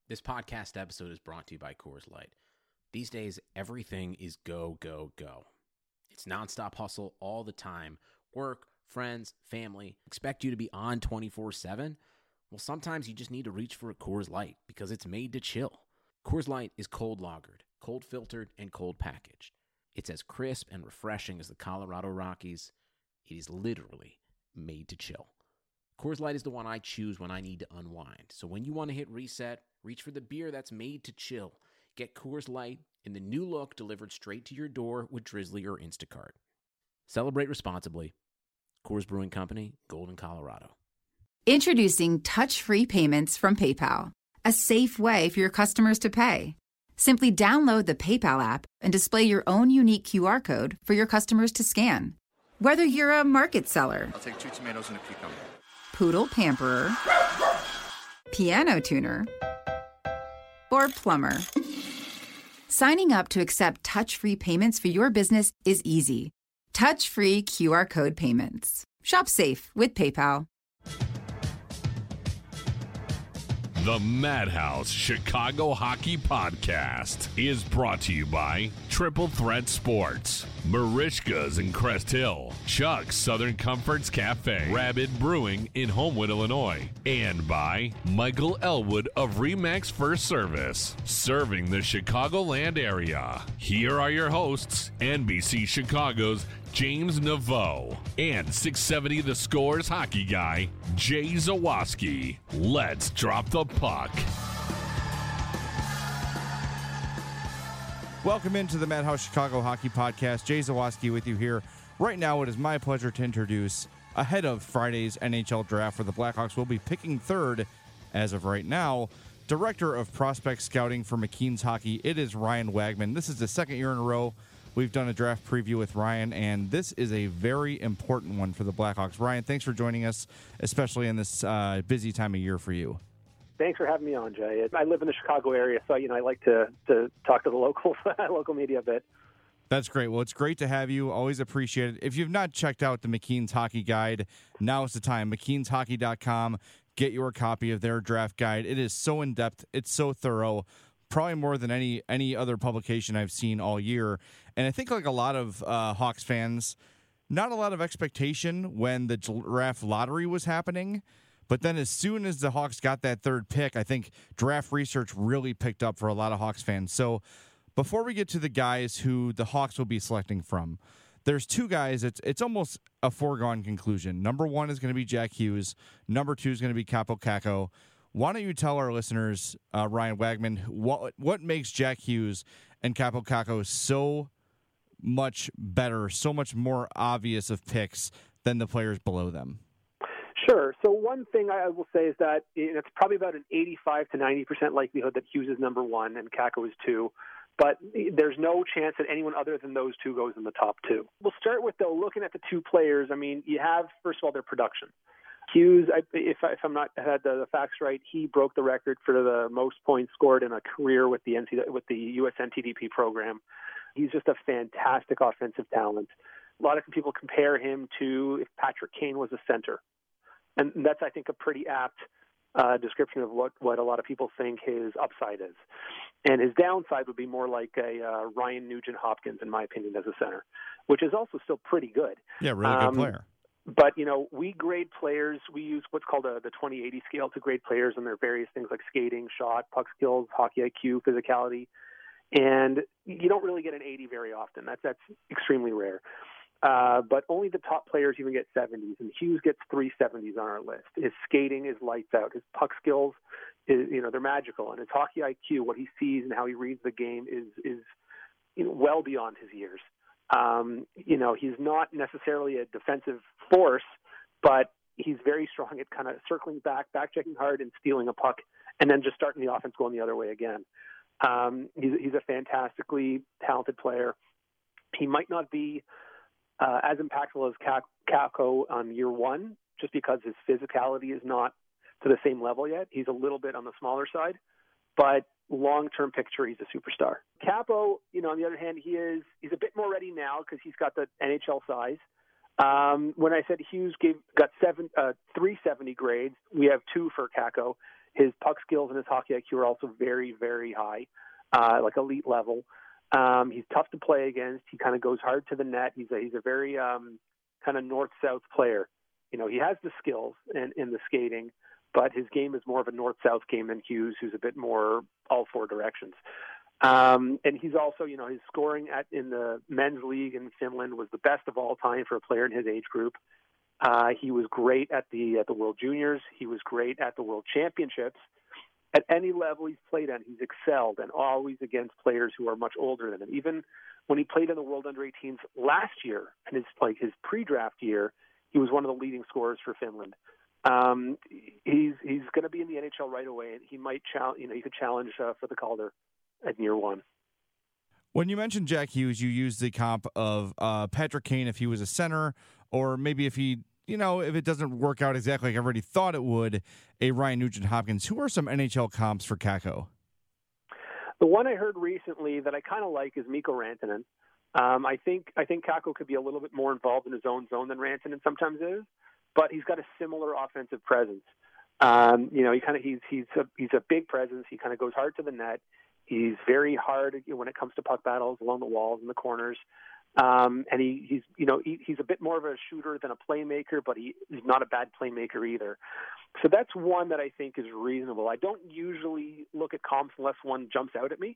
This podcast episode is brought to you by Coors Light. These days, everything is go, go, go. It's nonstop hustle all the time. Work, friends, family, expect you to be on 24/7. Well, sometimes you just need to reach for a Coors Light because it's made to chill. Coors Light is cold lagered, cold filtered, and cold packaged. It's as crisp and refreshing as the Colorado Rockies. It is literally made to chill. Coors Light is the one I choose when I need to unwind. So when you want to hit reset, reach for the beer that's made to chill. Get Coors Light in the new look delivered straight to your door with Drizzly or Instacart. Celebrate responsibly. Coors Brewing Company, Golden, Colorado. Introducing touch-free payments from PayPal, a safe way for your customers to pay. Simply download the PayPal app and display your own unique QR code for your customers to scan. Whether you're a market seller, I'll take 2 tomatoes and a cucumber. poodle pamperer, piano tuner, or plumber. Signing up to accept touch-free payments for your business is easy. Touch-free QR code payments. Shop safe with PayPal. The Madhouse Chicago Hockey Podcast is brought to you by Triple Threat Sports, Marishka's in Crest Hill, Chuck's Southern Comforts Cafe, Rabbit Brewing in Homewood, Illinois, and by Michael Elwood of Remax First Service, serving the Chicagoland area. Here are your hosts, NBC Chicago's James Naveau and 670 The Scores hockey guy, Jay Zawaski. Let's drop the puck. Welcome into the Madhouse Chicago Hockey Podcast. Jay Zawaski with you here. Right now, it is my pleasure to introduce, ahead of Friday's NHL draft, where the Blackhawks will be picking third as of right now, Director of Prospect Scouting for McKeen's Hockey. It is Ryan Wagman. This is the second year in a row we've done a draft preview with Ryan, and this is a very important one for the Blackhawks. Ryan, thanks for joining us, especially in this busy time of year for you. Thanks for having me on, Jay. I live in the Chicago area, so I like to talk to the local media a bit. That's great. Well, it's great to have you. Always appreciate it. If you've not checked out the McKeen's Hockey Guide, now is the time. McKeensHockey.com. Get your copy of their draft guide. It is so in-depth. It's so thorough. Probably more than any other publication I've seen all year. And I think like a lot of Hawks fans, not a lot of expectation when the draft lottery was happening. But then as soon as the Hawks got that third pick, I think draft research really picked up for a lot of Hawks fans. So before we get to the guys who the Hawks will be selecting from, there's two guys. It's almost a foregone conclusion. Number one is going to be Jack Hughes. Number two is going to be Kaapo Kakko. Why don't you tell our listeners, Ryan Wagman, what makes Jack Hughes and Kaapo Kakko so much better, so much more obvious of picks than the players below them? Sure. So one thing I will say is that it's probably about an 85 to 90% likelihood that Hughes is number one and Kakko is two. But there's no chance that anyone other than those two goes in the top two. We'll start with, though, looking at the two players. I mean, you have, first of all, their production. Hughes, if I'm not had the facts right, he broke the record for the most points scored in a career with the U.S. NTDP program. He's just a fantastic offensive talent. A lot of people compare him to if Patrick Kane was a center, and that's, I think, a pretty apt description of what a lot of people think his upside is. And his downside would be more like a Ryan Nugent-Hopkins, in my opinion, as a center, which is also still pretty good. Yeah, really good player. But, we grade players. We use what's called the 20/80 scale to grade players on their various things like skating, shot, puck skills, hockey IQ, physicality. And you don't really get an 80 very often. That's extremely rare. But only the top players even get 70s, and Hughes gets 3 70s on our list. His skating is lights out. His puck skills, they're magical. And his hockey IQ, what he sees and how he reads the game is well beyond his years. He's not necessarily a defensive force, but he's very strong at kind of circling back checking hard and stealing a puck, and then just starting the offense going the other way again. He's a fantastically talented player. He might not be as impactful as Kakko on year one, just because his physicality is not to the same level yet. He's a little bit on the smaller side, but long-term picture, he's a superstar. Kaapo, on the other hand, he's a bit more ready now because he's got the NHL size. When I said Hughes got 370 grades, we have 2 for Kakko. His puck skills and his hockey IQ are also very, very high, like elite level. He's tough to play against. He kind of goes hard to the net. He's a very kind of north-south player. You know, he has the skills in the skating, but his game is more of a north-south game than Hughes, who's a bit more all four directions. And he's also, you know, his scoring in the men's league in Finland was the best of all time for a player in his age group. He was great at the World Juniors. He was great at the World Championships. At any level he's played at, he's excelled, and always against players who are much older than him. Even when he played in the World Under-18s last year, and his pre-draft year, he was one of the leading scorers for Finland. He's going to be in the NHL right away, and he might he could challenge for the Calder at year one. When you mentioned Jack Hughes, you used the comp of Patrick Kane if he was a center, or maybe if it doesn't work out exactly like everybody thought it would, a Ryan Nugent-Hopkins. Who are some NHL comps for Kakko? The one I heard recently that I kind of like is Mikko Rantanen. I think Kakko could be a little bit more involved in his own zone than Rantanen sometimes is, but he's got a similar offensive presence. He's a big presence. He kind of goes hard to the net. He's very hard when it comes to puck battles along the walls and the corners. And he's a bit more of a shooter than a playmaker, but he's not a bad playmaker either. So that's one that I think is reasonable. I don't usually look at comps unless one jumps out at me.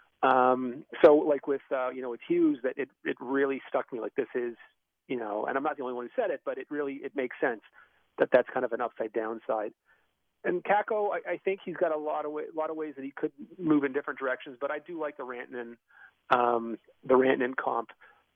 So like with Hughes, that it really stuck me. Like this is, and I'm not the only one who said it, but it makes sense that that's kind of an upside downside. And Kakko, I think he's got a lot of ways that he could move in different directions, but I do like the Rantanen comp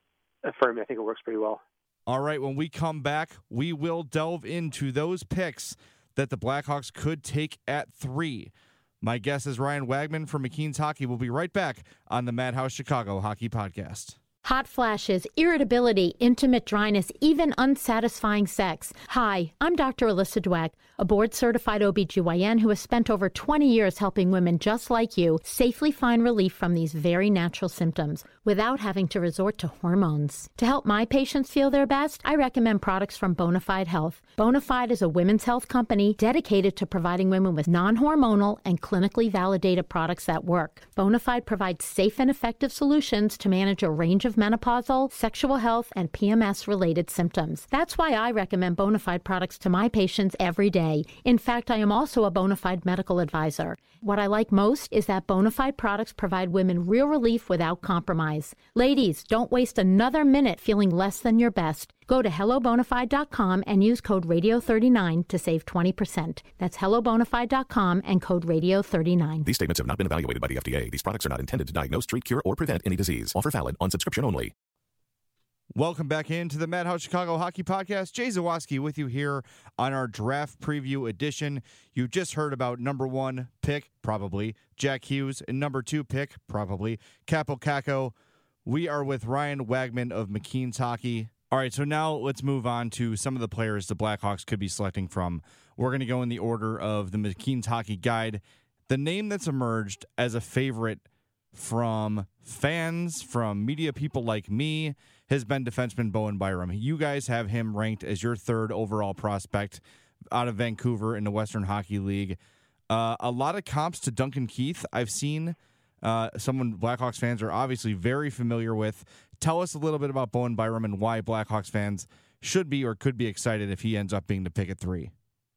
for me. I think it works pretty well. All right, when we come back, we will delve into those picks that the Blackhawks could take at 3. My guest is Ryan Wagman from McKeen's Hockey. We'll be right back on the Madhouse Chicago Hockey Podcast. Hot flashes, irritability, intimate dryness, even unsatisfying sex. Hi, I'm Dr. Alyssa Dweck, a board-certified OBGYN who has spent over 20 years helping women just like you safely find relief from these very natural symptoms without having to resort to hormones. To help my patients feel their best, I recommend products from Bonafide Health. Bonafide is a women's health company dedicated to providing women with non-hormonal and clinically validated products that work. Bonafide provides safe and effective solutions to manage a range of menopausal, sexual health, and PMS-related symptoms. That's why I recommend Bonafide products to my patients every day. In fact, I am also a Bonafide medical advisor. What I like most is that Bonafide products provide women real relief without compromise. Ladies, don't waste another minute feeling less than your best. Go to hellobonafide.com and use code radio39 to save 20%. That's hellobonafide.com and code radio39. These statements have not been evaluated by the FDA. These products are not intended to diagnose, treat, cure, or prevent any disease. Offer valid on subscription only. Welcome back into the Madhouse Chicago Hockey Podcast. Jay Zawaski with you here on our draft preview edition. You just heard about number 1 pick, probably, Jack Hughes, and number 2 pick, probably, Kaapo Kakko. We are with Ryan Wagman of McKeen's Hockey. All right, so now let's move on to some of the players the Blackhawks could be selecting from. We're going to go in the order of the McKeen's Hockey Guide. The name that's emerged as a favorite from fans, from media people like me, has been defenseman Bowen Byram. You guys have him ranked as your 3rd overall prospect out of Vancouver in the Western Hockey League. A lot of comps to Duncan Keith I've seen. Someone Blackhawks fans are obviously very familiar with. Tell us a little bit about Bowen Byram and why Blackhawks fans should be or could be excited if he ends up being the pick at 3.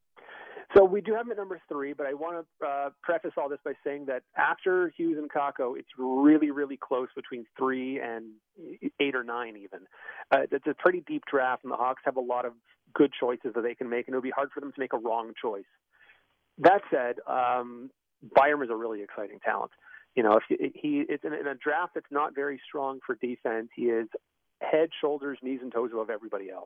So we do have him at number 3, but I want to preface all this by saying that after Hughes and Kakko, it's really, really close between 3 and 8 or 9 even. It's a pretty deep draft, and the Hawks have a lot of good choices that they can make, and it would be hard for them to make a wrong choice. That said, Byram is a really exciting talent. It's in a draft that's not very strong for defense. He is head, shoulders, knees, and toes above everybody else.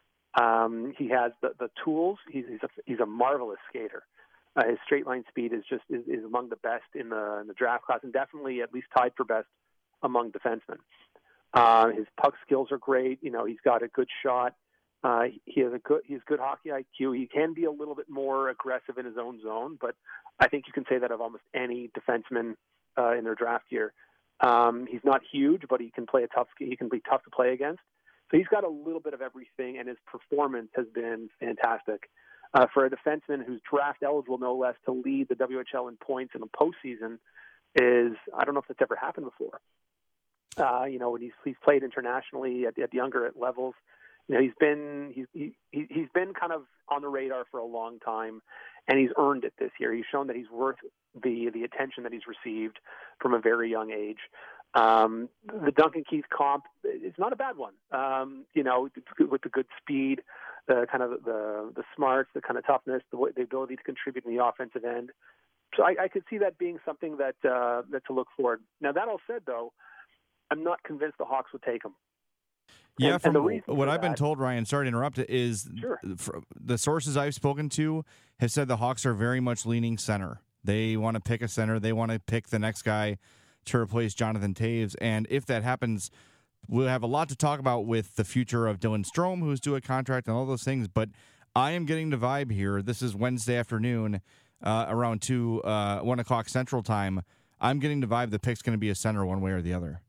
He has the tools. He's a marvelous skater. His straight line speed is among the best in the draft class, and definitely at least tied for best among defensemen. His puck skills are great. He's got a good shot. He has good hockey IQ. He can be a little bit more aggressive in his own zone, but I think you can say that of almost any defenseman in their draft year. He's not huge, but he can be tough to play against. So he's got a little bit of everything, and his performance has been fantastic. For a defenseman who's draft eligible, no less, to lead the WHL in points in the postseason I don't know if that's ever happened before. When he's played internationally at younger levels, he's been kind of on the radar for a long time, and he's earned it this year. He's shown that he's worth the attention that he's received from a very young age. The Duncan Keith comp is not a bad one. With the good speed, the kind of the smarts, the kind of toughness, the ability to contribute in the offensive end. So I could see that being something that to look forward. Now, that all said, though, I'm not convinced the Hawks would take him. Yeah, and from what I've been told, Ryan, sorry to interrupt, is sure. The sources I've spoken to have said the Hawks are very much leaning center. They want to pick a center. They want to pick the next guy to replace Jonathan Toews. And if that happens, we'll have a lot to talk about with the future of Dylan Strome, who's due a contract and all those things. But I am getting the vibe here. This is Wednesday afternoon around 1 o'clock Central Time. I'm getting the vibe the pick's going to be a center one way or the other.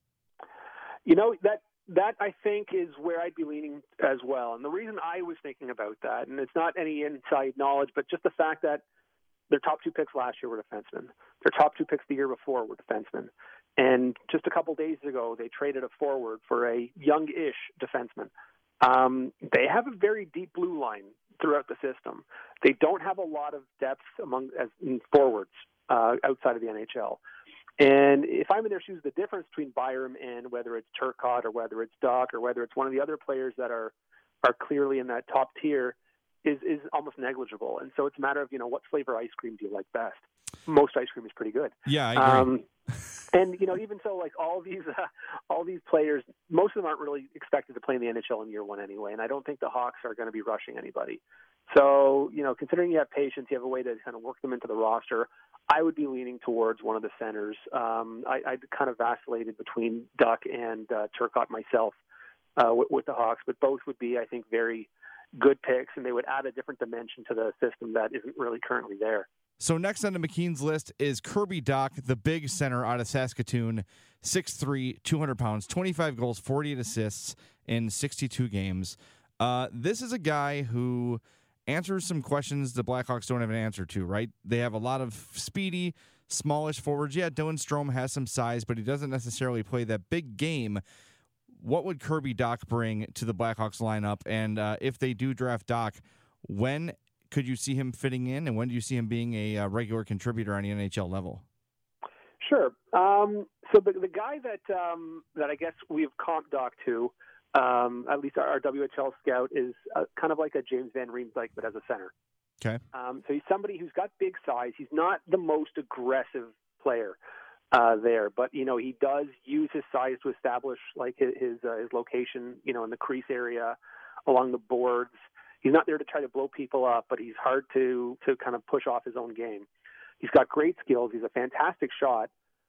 That I think is where I'd be leaning as well. And the reason I was thinking about that, and it's not any inside knowledge, but just the fact that their top 2 picks last year were defensemen. Their top 2 picks the year before were defensemen. And just a couple days ago, they traded a forward for a young-ish defenseman. They have a very deep blue line throughout the system. They don't have a lot of depth in forwards outside of the NHL. And if I'm in their shoes, the difference between Byram and whether it's Turcotte or whether it's Duck or whether it's one of the other players that are clearly in that top tier is almost negligible. And so it's a matter of, what flavor ice cream do you like best? Most ice cream is pretty good. Yeah, I agree. And even so, like all these players, most of them aren't really expected to play in the NHL in year one anyway. And I don't think the Hawks are going to be rushing anybody. So, considering you have patience, you have a way to kind of work them into the roster. I would be leaning towards one of the centers. I kind of vacillated between Duck and Turcotte myself with the Hawks, but both would be, I think, very good picks, and they would add a different dimension to the system that isn't really currently there. So next on the McKeen's list is Kirby Dach, the big center out of Saskatoon, 6'3", 200 pounds, 25 goals, 48 assists in 62 games. This is a guy who answers some questions the Blackhawks don't have an answer to, right? They have a lot of speedy, smallish forwards. Yeah, Dylan Strome has some size, but he doesn't necessarily play that big game. What would Kirby Dach bring to the Blackhawks lineup? And if they do draft Dach, when could you see him fitting in, and when do you see him being a regular contributor on the NHL level? Sure. So the guy that I guess we've comped Dach to, at least our WHL scout, is kind of like a James Van Riemsdyk, but as a center. Okay. So he's somebody who's got big size. He's not the most aggressive player there, but he does use his size to establish like his location, in the crease area, along the boards. He's not there to try to blow people up, but he's hard to kind of push off his own game. He's got great skills. He's a fantastic shot.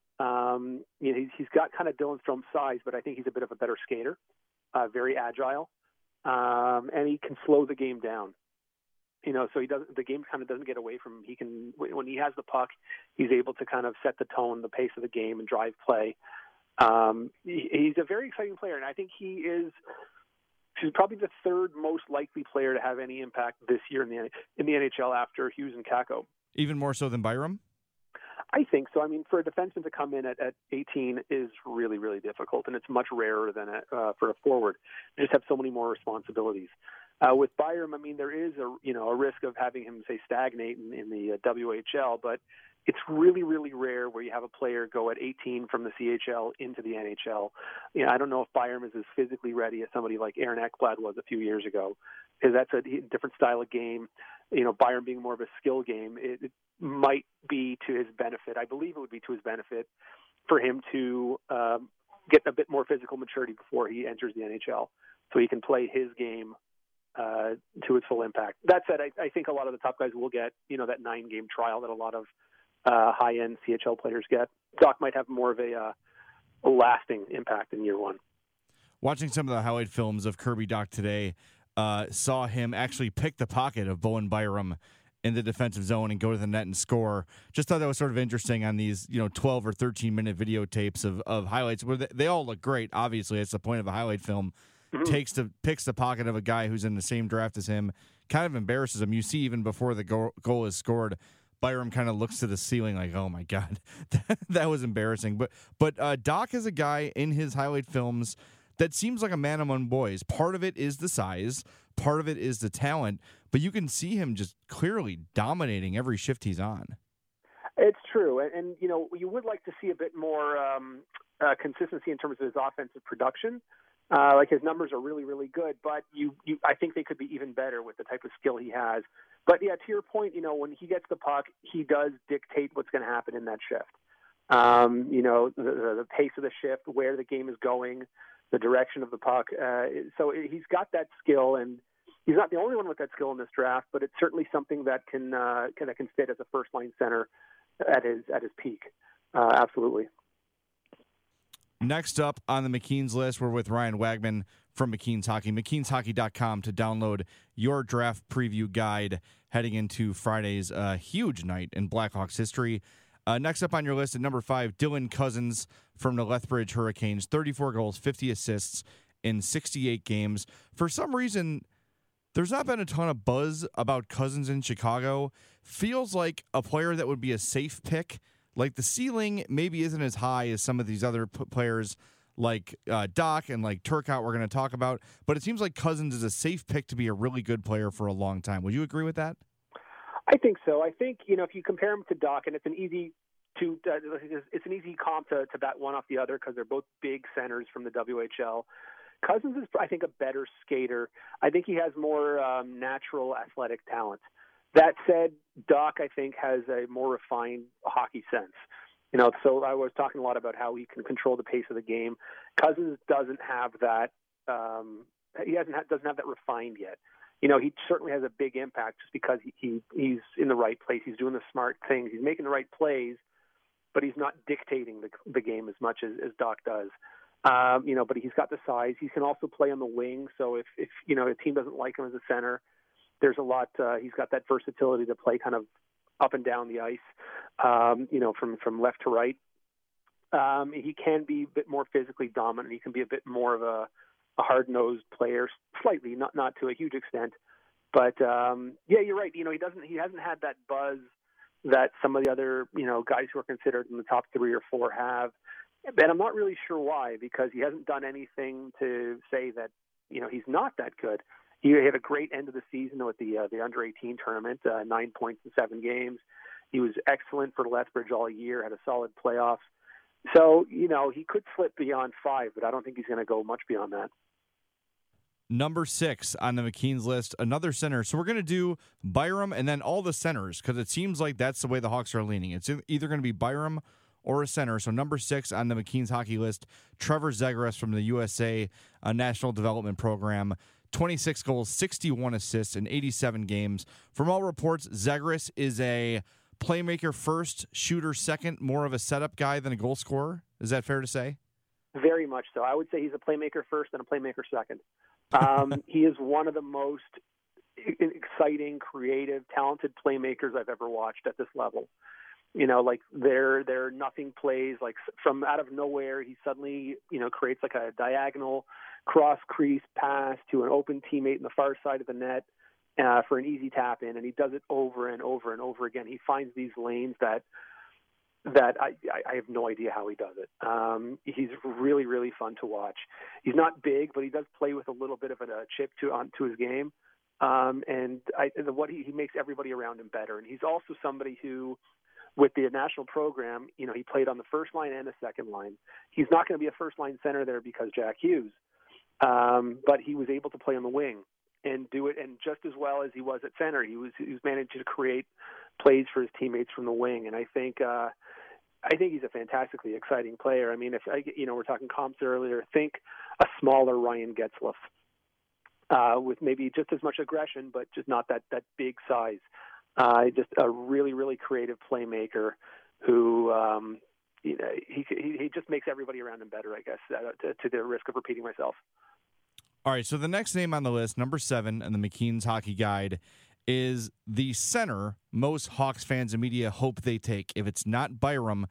He's got kind of Dylan Strome's size, but I think he's a bit of a better skater. Very agile, and he can slow the game down. So the game kind of doesn't get away from him. He can, when he has the puck, he's able to kind of set the tone, the pace of the game, and drive play. He's a very exciting player, and I think he's probably the third most likely player to have any impact this year in the NHL after Hughes and Kakko. Even more so than Byram? I think so. I mean, for a defenseman to come in at 18 is really, really difficult, and it's much rarer than for a forward. They just have so many more responsibilities. With Byram, I mean, there is a risk of having him, say, stagnate in the WHL, but it's really, really rare where you have a player go at 18 from the CHL into the NHL. I don't know if Byram is as physically ready as somebody like Aaron Ekblad was a few years ago, because that's a different style of game. Byram being more of a skill game, it might be to his benefit. I believe it would be to his benefit for him to get a bit more physical maturity before he enters the NHL, so he can play his game to its full impact. That said, I think a lot of the top guys will get, that 9-game trial that a lot of high-end CHL players get. Dach might have more of a lasting impact in year one. Watching some of the highlight films of Kirby Dach today, saw him actually pick the pocket of Bowen Byram in the defensive zone and go to the net and score. Just thought that was sort of interesting on these 12 or 13-minute videotapes of highlights where they all look great. Obviously, it's the point of a highlight film. picks the pocket of a guy who's in the same draft as him, kind of embarrasses him. You see, even before the goal is scored, Byram kind of looks to the ceiling like, oh my God, that was embarrassing. But Doc is a guy in his highlight films that seems like a man among boys. Part of it is the size, part of it is the talent, but you can see him just clearly dominating every shift he's on. It's true, and you know, you would like to see a bit more consistency in terms of his offensive production. Like his numbers are really, really good, but I think they could be even better with the type of skill he has. But yeah, to your point, you know, when he gets the puck, he does dictate what's going to happen in that shift. You know, the pace of the shift, where the game is going, the direction of the puck. So he's got that skill, and he's not the only one with that skill in this draft, but it's certainly something that can fit as a first line center at his peak. Absolutely. Next up on the McKeen's list, we're with Ryan Wagman from McKeen's Hockey. McKeensHockey.com to download your draft preview guide heading into Friday's huge night in Blackhawks history. Next up on your list at number 5, Dylan Cozens from the Lethbridge Hurricanes. 34 goals, 50 assists in 68 games. For some reason, there's not been a ton of buzz about Cozens in Chicago. Feels like a player that would be a safe pick. Like the ceiling maybe isn't as high as some of these other players like Doc and like Turcotte we're going to talk about, but it seems like Cozens is a safe pick to be a really good player for a long time. Would you agree with that? I think so. I think, you know, if you compare him to Doc, and it's an easy comp to bat one off the other because they're both big centers from the WHL. Cozens is, I think, a better skater. I think he has more natural athletic talent. That said, Doc, I think, has a more refined hockey sense. You know, so I was talking a lot about how he can control the pace of the game. Cozens doesn't have that. Doesn't have that refined yet. You know, he certainly has a big impact just because he's in the right place. He's doing the smart things. He's making the right plays, but he's not dictating the game as much as Doc does. You know, but he's got the size. He can also play on the wing. So if you know, a team doesn't like him as a center, there's a lot. He's got that versatility to play kind of up and down the ice, you know, from left to right. He can be a bit more physically dominant. He can be a bit more of a hard-nosed player, slightly, not to a huge extent. But yeah, you're right. You know, he hasn't had that buzz that some of the other, you know, guys who are considered in the top 3 or 4 have. And I'm not really sure why, because he hasn't done anything to say that, you know, he's not that good. He had a great end of the season with the under-18 tournament, 9 points in 7 games. He was excellent for Lethbridge all year, had a solid playoff. So, you know, he could slip beyond 5, but I don't think he's going to go much beyond that. Number 6 on the McKeen's list, another center. So we're going to do Byram and then all the centers because it seems like that's the way the Hawks are leaning. It's either going to be Byram or a center. So number 6 on the McKeen's hockey list, Trevor Zegras from the USA National Development Program. 26 goals, 61 assists in 87 games. From all reports, Zegras is a playmaker first, shooter second, more of a setup guy than a goal scorer. Is that fair to say? Very much so. I would say he's a playmaker first and a playmaker second. He is one of the most exciting, creative, talented playmakers I've ever watched at this level. You know, like they're nothing plays, like from out of nowhere, he suddenly, you know, creates like a diagonal cross crease pass to an open teammate in the far side of the net for an easy tap in, and he does it over and over and over again. He finds these lanes that I have no idea how he does it. He's really, really fun to watch. He's not big, but he does play with a little bit of a chip to his game, and he makes everybody around him better. And he's also somebody who, with the national program, you know, he played on the first line and the second line. He's not going to be a first line center there because Jack Hughes, but he was able to play on the wing and do it, and just as well as he was at center, he was managed to create plays for his teammates from the wing. And I think he's a fantastically exciting player. I mean, we're talking comps earlier. Think a smaller Ryan Getzlaf with maybe just as much aggression, but just not that big size. Just a really, really creative playmaker who, you know, he just makes everybody around him better, I guess, to the risk of repeating myself. All right, so the next name on the list, number 7 in the McKeen's Hockey Guide, is the center most Hawks fans and media hope they take. If it's not Byram,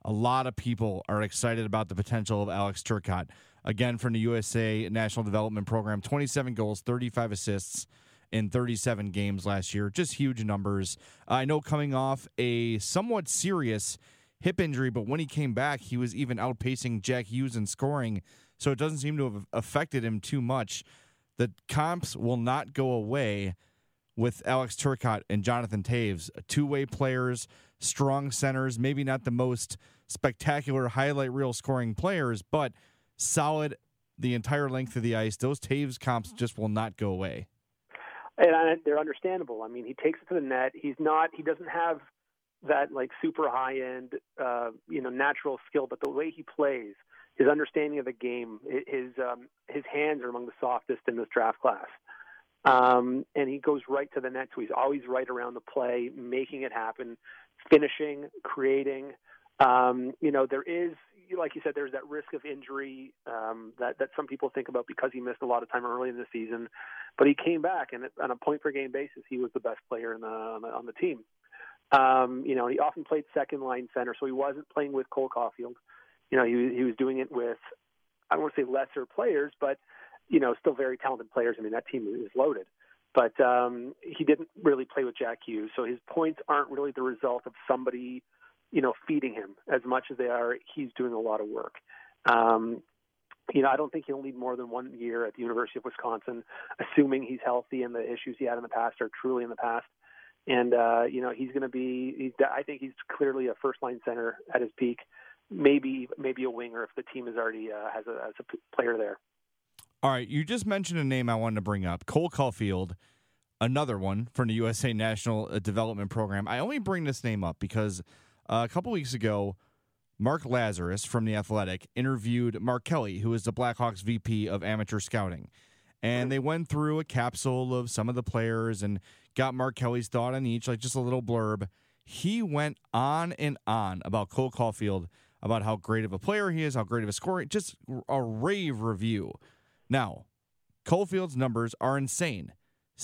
A lot of people are excited about the potential of Alex Turcotte. Again, from the USA National Development Program, 27 goals, 35 assists in 37 games last year. Just huge numbers. I know coming off a somewhat serious hip injury, but when he came back, he was even outpacing Jack Hughes in scoring, so it doesn't seem to have affected him too much. The comps will not go away with Alex Turcotte and Jonathan Toews, two-way players, strong centers, maybe not the most spectacular highlight reel scoring players, but solid the entire length of the ice. Those Toews comps just will not go away. And they're understandable. I mean, he takes it to the net. He doesn't have that like super high end, natural skill, but the way he plays, his understanding of the game, his hands are among the softest in this draft class. And he goes right to the net, so he's always right around the play, making it happen, finishing, creating. There is, like you said, there's that risk of injury that some people think about because he missed a lot of time early in the season. But he came back, and on a point-per-game basis, he was the best player on the team. He often played second-line center, so he wasn't playing with Cole Caulfield. He was doing it with, I don't want to say lesser players, but still very talented players. I mean, that team is loaded. But he didn't really play with Jack Hughes, so his points aren't really the result of somebody, feeding him as much as they are. He's doing a lot of work. I don't think he'll need more than 1 year at the University of Wisconsin, assuming he's healthy and the issues he had in the past are truly in the past. And, he's going to be, I think he's clearly a first-line center at his peak, maybe a winger if the team is already has a player there. All right, you just mentioned a name I wanted to bring up, Cole Caulfield, another one from the USA National Development Program. I only bring this name up because a couple weeks ago, Mark Lazarus from The Athletic interviewed Mark Kelly, who is the Blackhawks VP of Amateur Scouting. And they went through a capsule of some of the players and got Mark Kelly's thought on each, like just a little blurb. He went on and on about Cole Caulfield, about how great of a player he is, how great of a scorer, just a rave review. Now, Caulfield's numbers are insane.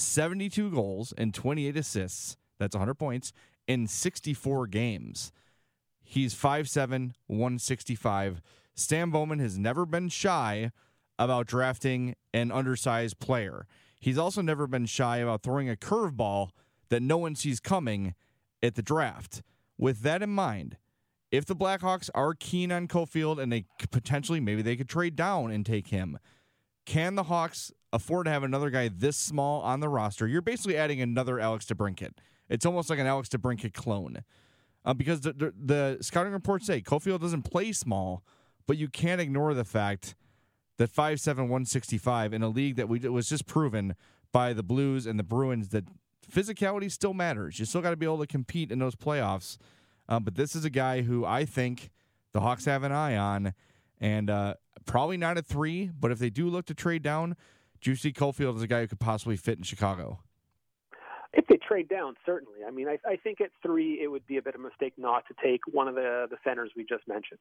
72 goals and 28 assists, that's 100 points, in 64 games. He's 5'7", 165. Stan Bowman has never been shy about drafting an undersized player. He's also never been shy about throwing a curveball that no one sees coming at the draft. With that in mind, if the Blackhawks are keen on Caulfield and they potentially, maybe they could trade down and take him, can the Hawks afford to have another guy this small on the roster? You're basically adding another Alex DeBrincat. It's almost like an Alex DeBrincat clone. Because the scouting reports say Caulfield doesn't play small, but you can't ignore the fact that 5'7", 165 in a league that was just proven by the Blues and the Bruins that physicality still matters. You still got to be able to compete in those playoffs. But this is a guy who I think the Hawks have an eye on, and probably not at 3, but if they do look to trade down, do you see Caulfield as a guy who could possibly fit in Chicago? If they trade down, certainly. I mean, I think at 3 it would be a bit of a mistake not to take one of the centers we just mentioned.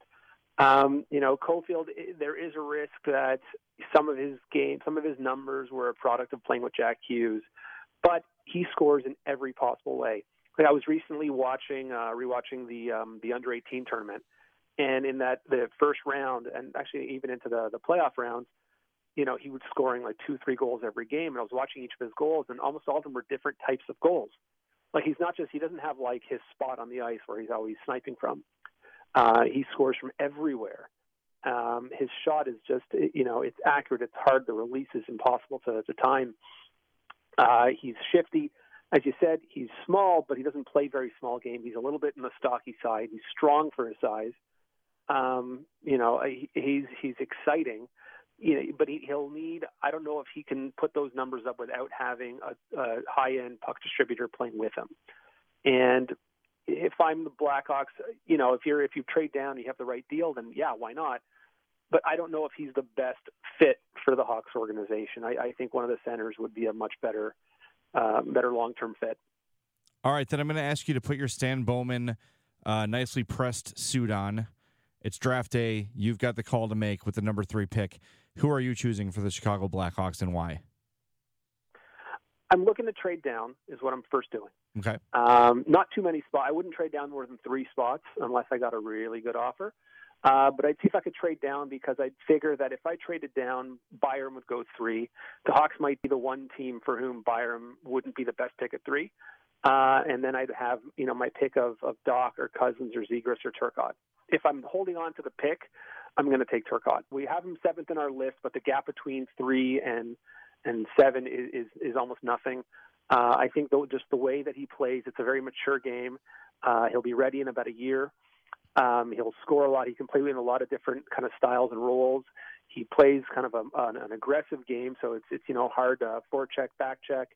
Caulfield, there is a risk that some of his numbers were a product of playing with Jack Hughes, but he scores in every possible way. Like I was recently rewatching the under-18 tournament, and in the first round, and actually even into the playoff rounds, he was scoring like 2-3 goals every game. And I was watching each of his goals, and almost all of them were different types of goals. Like he doesn't have like his spot on the ice where he's always sniping from. He scores from everywhere. His shot is just, it's accurate. It's hard. The release is impossible to time. He's shifty. As you said, he's small, but he doesn't play very small game. He's a little bit in the stocky side. He's strong for his size. He's exciting. But he'll need, I don't know if he can put those numbers up without having a high-end puck distributor playing with him. And if I'm the Blackhawks, if you trade down, you have the right deal, then yeah, why not? But I don't know if he's the best fit for the Hawks organization. I think one of the centers would be a much better long-term fit. All right, then I'm going to ask you to put your Stan Bowman nicely pressed suit on. It's draft day. You've got the call to make with the number 3 pick. Who are you choosing for the Chicago Blackhawks and why? I'm looking to trade down is what I'm first doing. Okay. Not too many spots. I wouldn't trade down more than 3 spots unless I got a really good offer. But I'd see if I could trade down, because I'd figure that if I traded down, Byram would go 3. The Hawks might be the one team for whom Byram wouldn't be the best pick at 3. And then I'd have, my pick of Doc or Cousins or Zegras or Turcotte. If I'm holding on to the pick, I'm going to take Turcotte. We have him 7th in our list, but the gap between 3 and 7 is almost nothing. I think just the way that he plays, it's a very mature game. He'll be ready in about a year. He'll score a lot. He can play in a lot of different kind of styles and roles. He plays kind of an aggressive game, so it's hard forecheck, back check.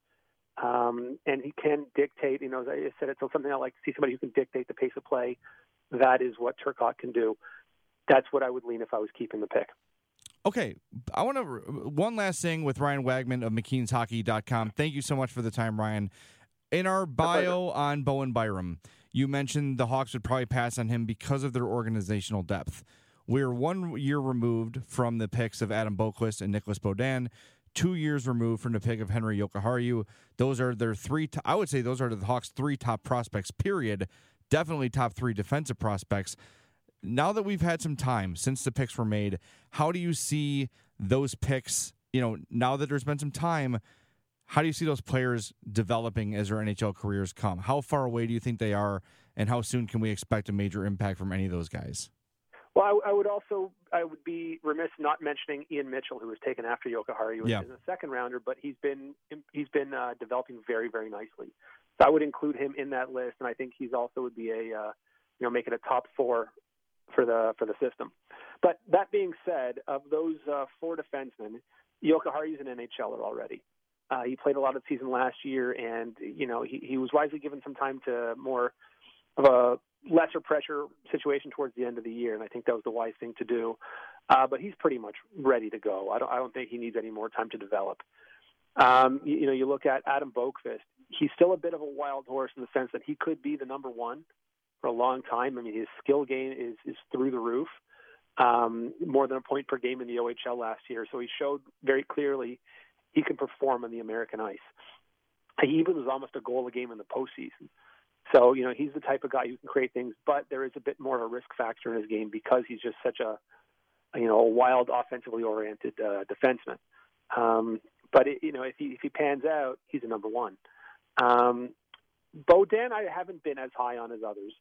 And he can dictate, as I said, it's something I like to see, somebody who can dictate the pace of play. That is what Turcotte can do. That's what I would lean if I was keeping the pick. Okay, I want to one last thing with Ryan Wagman of McKeensHockey.com. Thank you so much for the time, Ryan. In our bio on Bowen Byram, you mentioned the Hawks would probably pass on him because of their organizational depth. We're 1 year removed from the picks of Adam Boqvist and Nicholas Beaudin, 2 years removed from the pick of Henri Jokiharju. Those are their 3. I would say those are the Hawks' 3 top prospects. Period. Definitely top 3 defensive prospects. Now that we've had some time since the picks were made, how do you see those picks? Now that there's been some time, how do you see those players developing as their NHL careers come? How far away do you think they are, and how soon can we expect a major impact from any of those guys? Well, I would be remiss not mentioning Ian Mitchell, who was taken after Jokiharju as a second rounder, but he's been developing very, very nicely. So I would include him in that list, and I think he's also would be making a top 4 for the system. But that being said, of those 4 defensemen, Jokiharju's an NHLer already. He played a lot of the season last year, and he was wisely given some time to more of a lesser pressure situation towards the end of the year, and I think that was the wise thing to do. But he's pretty much ready to go. I don't think he needs any more time to develop. You look at Adam Boqvist. He's still a bit of a wild horse in the sense that he could be the number 1 for a long time. I mean, his skill game is through the roof, more than a point per game in the OHL last year. So he showed very clearly he can perform on the American ice. He even was almost a goal a game in the postseason. So, he's the type of guy who can create things, but there is a bit more of a risk factor in his game because he's just such a wild, offensively oriented defenseman. But if he pans out, he's a number 1. Beaudin, I haven't been as high on as others.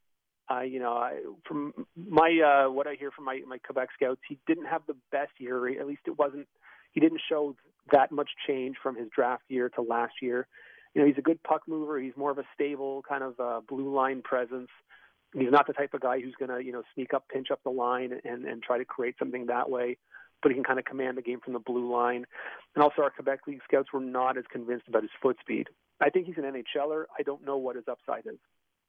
From my what I hear from my Quebec scouts, he didn't have the best year. At least he didn't show that much change from his draft year to last year. He's a good puck mover. He's more of a stable kind of blue line presence. He's not the type of guy who's going to sneak up, pinch up the line and try to create something that way. But he can kind of command the game from the blue line. And also our Quebec League scouts were not as convinced about his foot speed. I think he's an NHLer. I don't know what his upside is.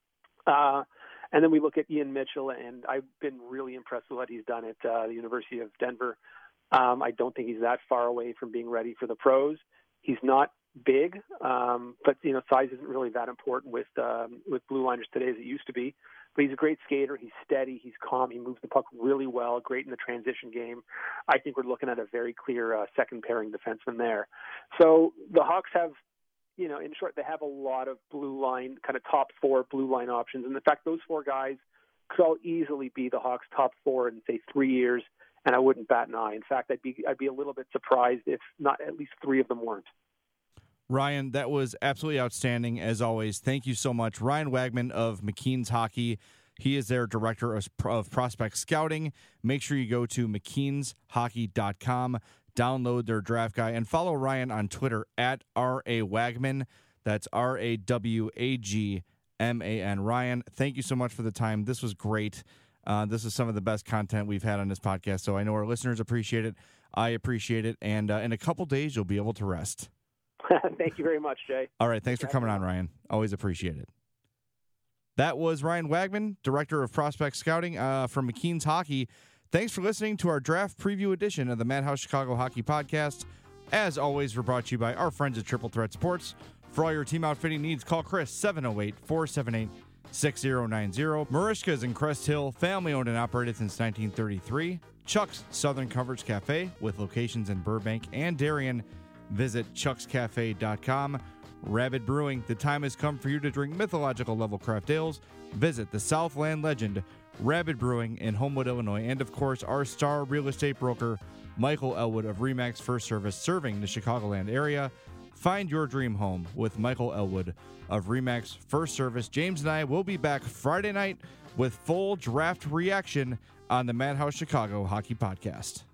And then we look at Ian Mitchell, and I've been really impressed with what he's done at the University of Denver. I don't think he's that far away from being ready for the pros. He's not big, but size isn't really that important with blue liners today as it used to be. But he's a great skater. He's steady. He's calm. He moves the puck really well. Great in the transition game. I think we're looking at a very clear second pairing defenseman there. So the Hawks have, in short, they have a lot of blue line, kind of top 4 blue line options. And in fact, those 4 guys could all easily be the Hawks' top 4 in, say, 3 years, and I wouldn't bat an eye. In fact, I'd be a little bit surprised if not at least 3 of them weren't. Ryan, that was absolutely outstanding, as always. Thank you so much. Ryan Wagman of McKeen's Hockey. He is their director of prospect scouting. Make sure you go to McKeensHockey.com, download their draft guide, and follow Ryan on Twitter at RAWagman. That's RAWAGMAN. Ryan, thank you so much for the time. This was great. This is some of the best content we've had on this podcast, so I know our listeners appreciate it. I appreciate it. And in a couple days, you'll be able to rest. Thank you very much, Jay. All right. Thanks for coming on, Ryan. Always appreciate it. That was Ryan Wagman, Director of Prospect Scouting from McKeen's Hockey. Thanks for listening to our draft preview edition of the Madhouse Chicago Hockey Podcast. As always, we're brought to you by our friends at Triple Threat Sports. For all your team outfitting needs, call Chris 708-478-6090. Marishka's in Crest Hill, family-owned and operated since 1933. Chuck's Southern Comforts Cafe with locations in Burbank and Darien. Visit chuckscafe.com. Rabid Brewing, the time has come for you to drink mythological level craft ales. Visit the Southland legend, Rabid Brewing in Homewood, Illinois. And of course, our star real estate broker, Michael Elwood of RE/MAX First Service, serving the Chicagoland area. Find your dream home with Michael Elwood of RE/MAX First Service. James and I will be back Friday night with full draft reaction on the Madhouse Chicago Hockey Podcast.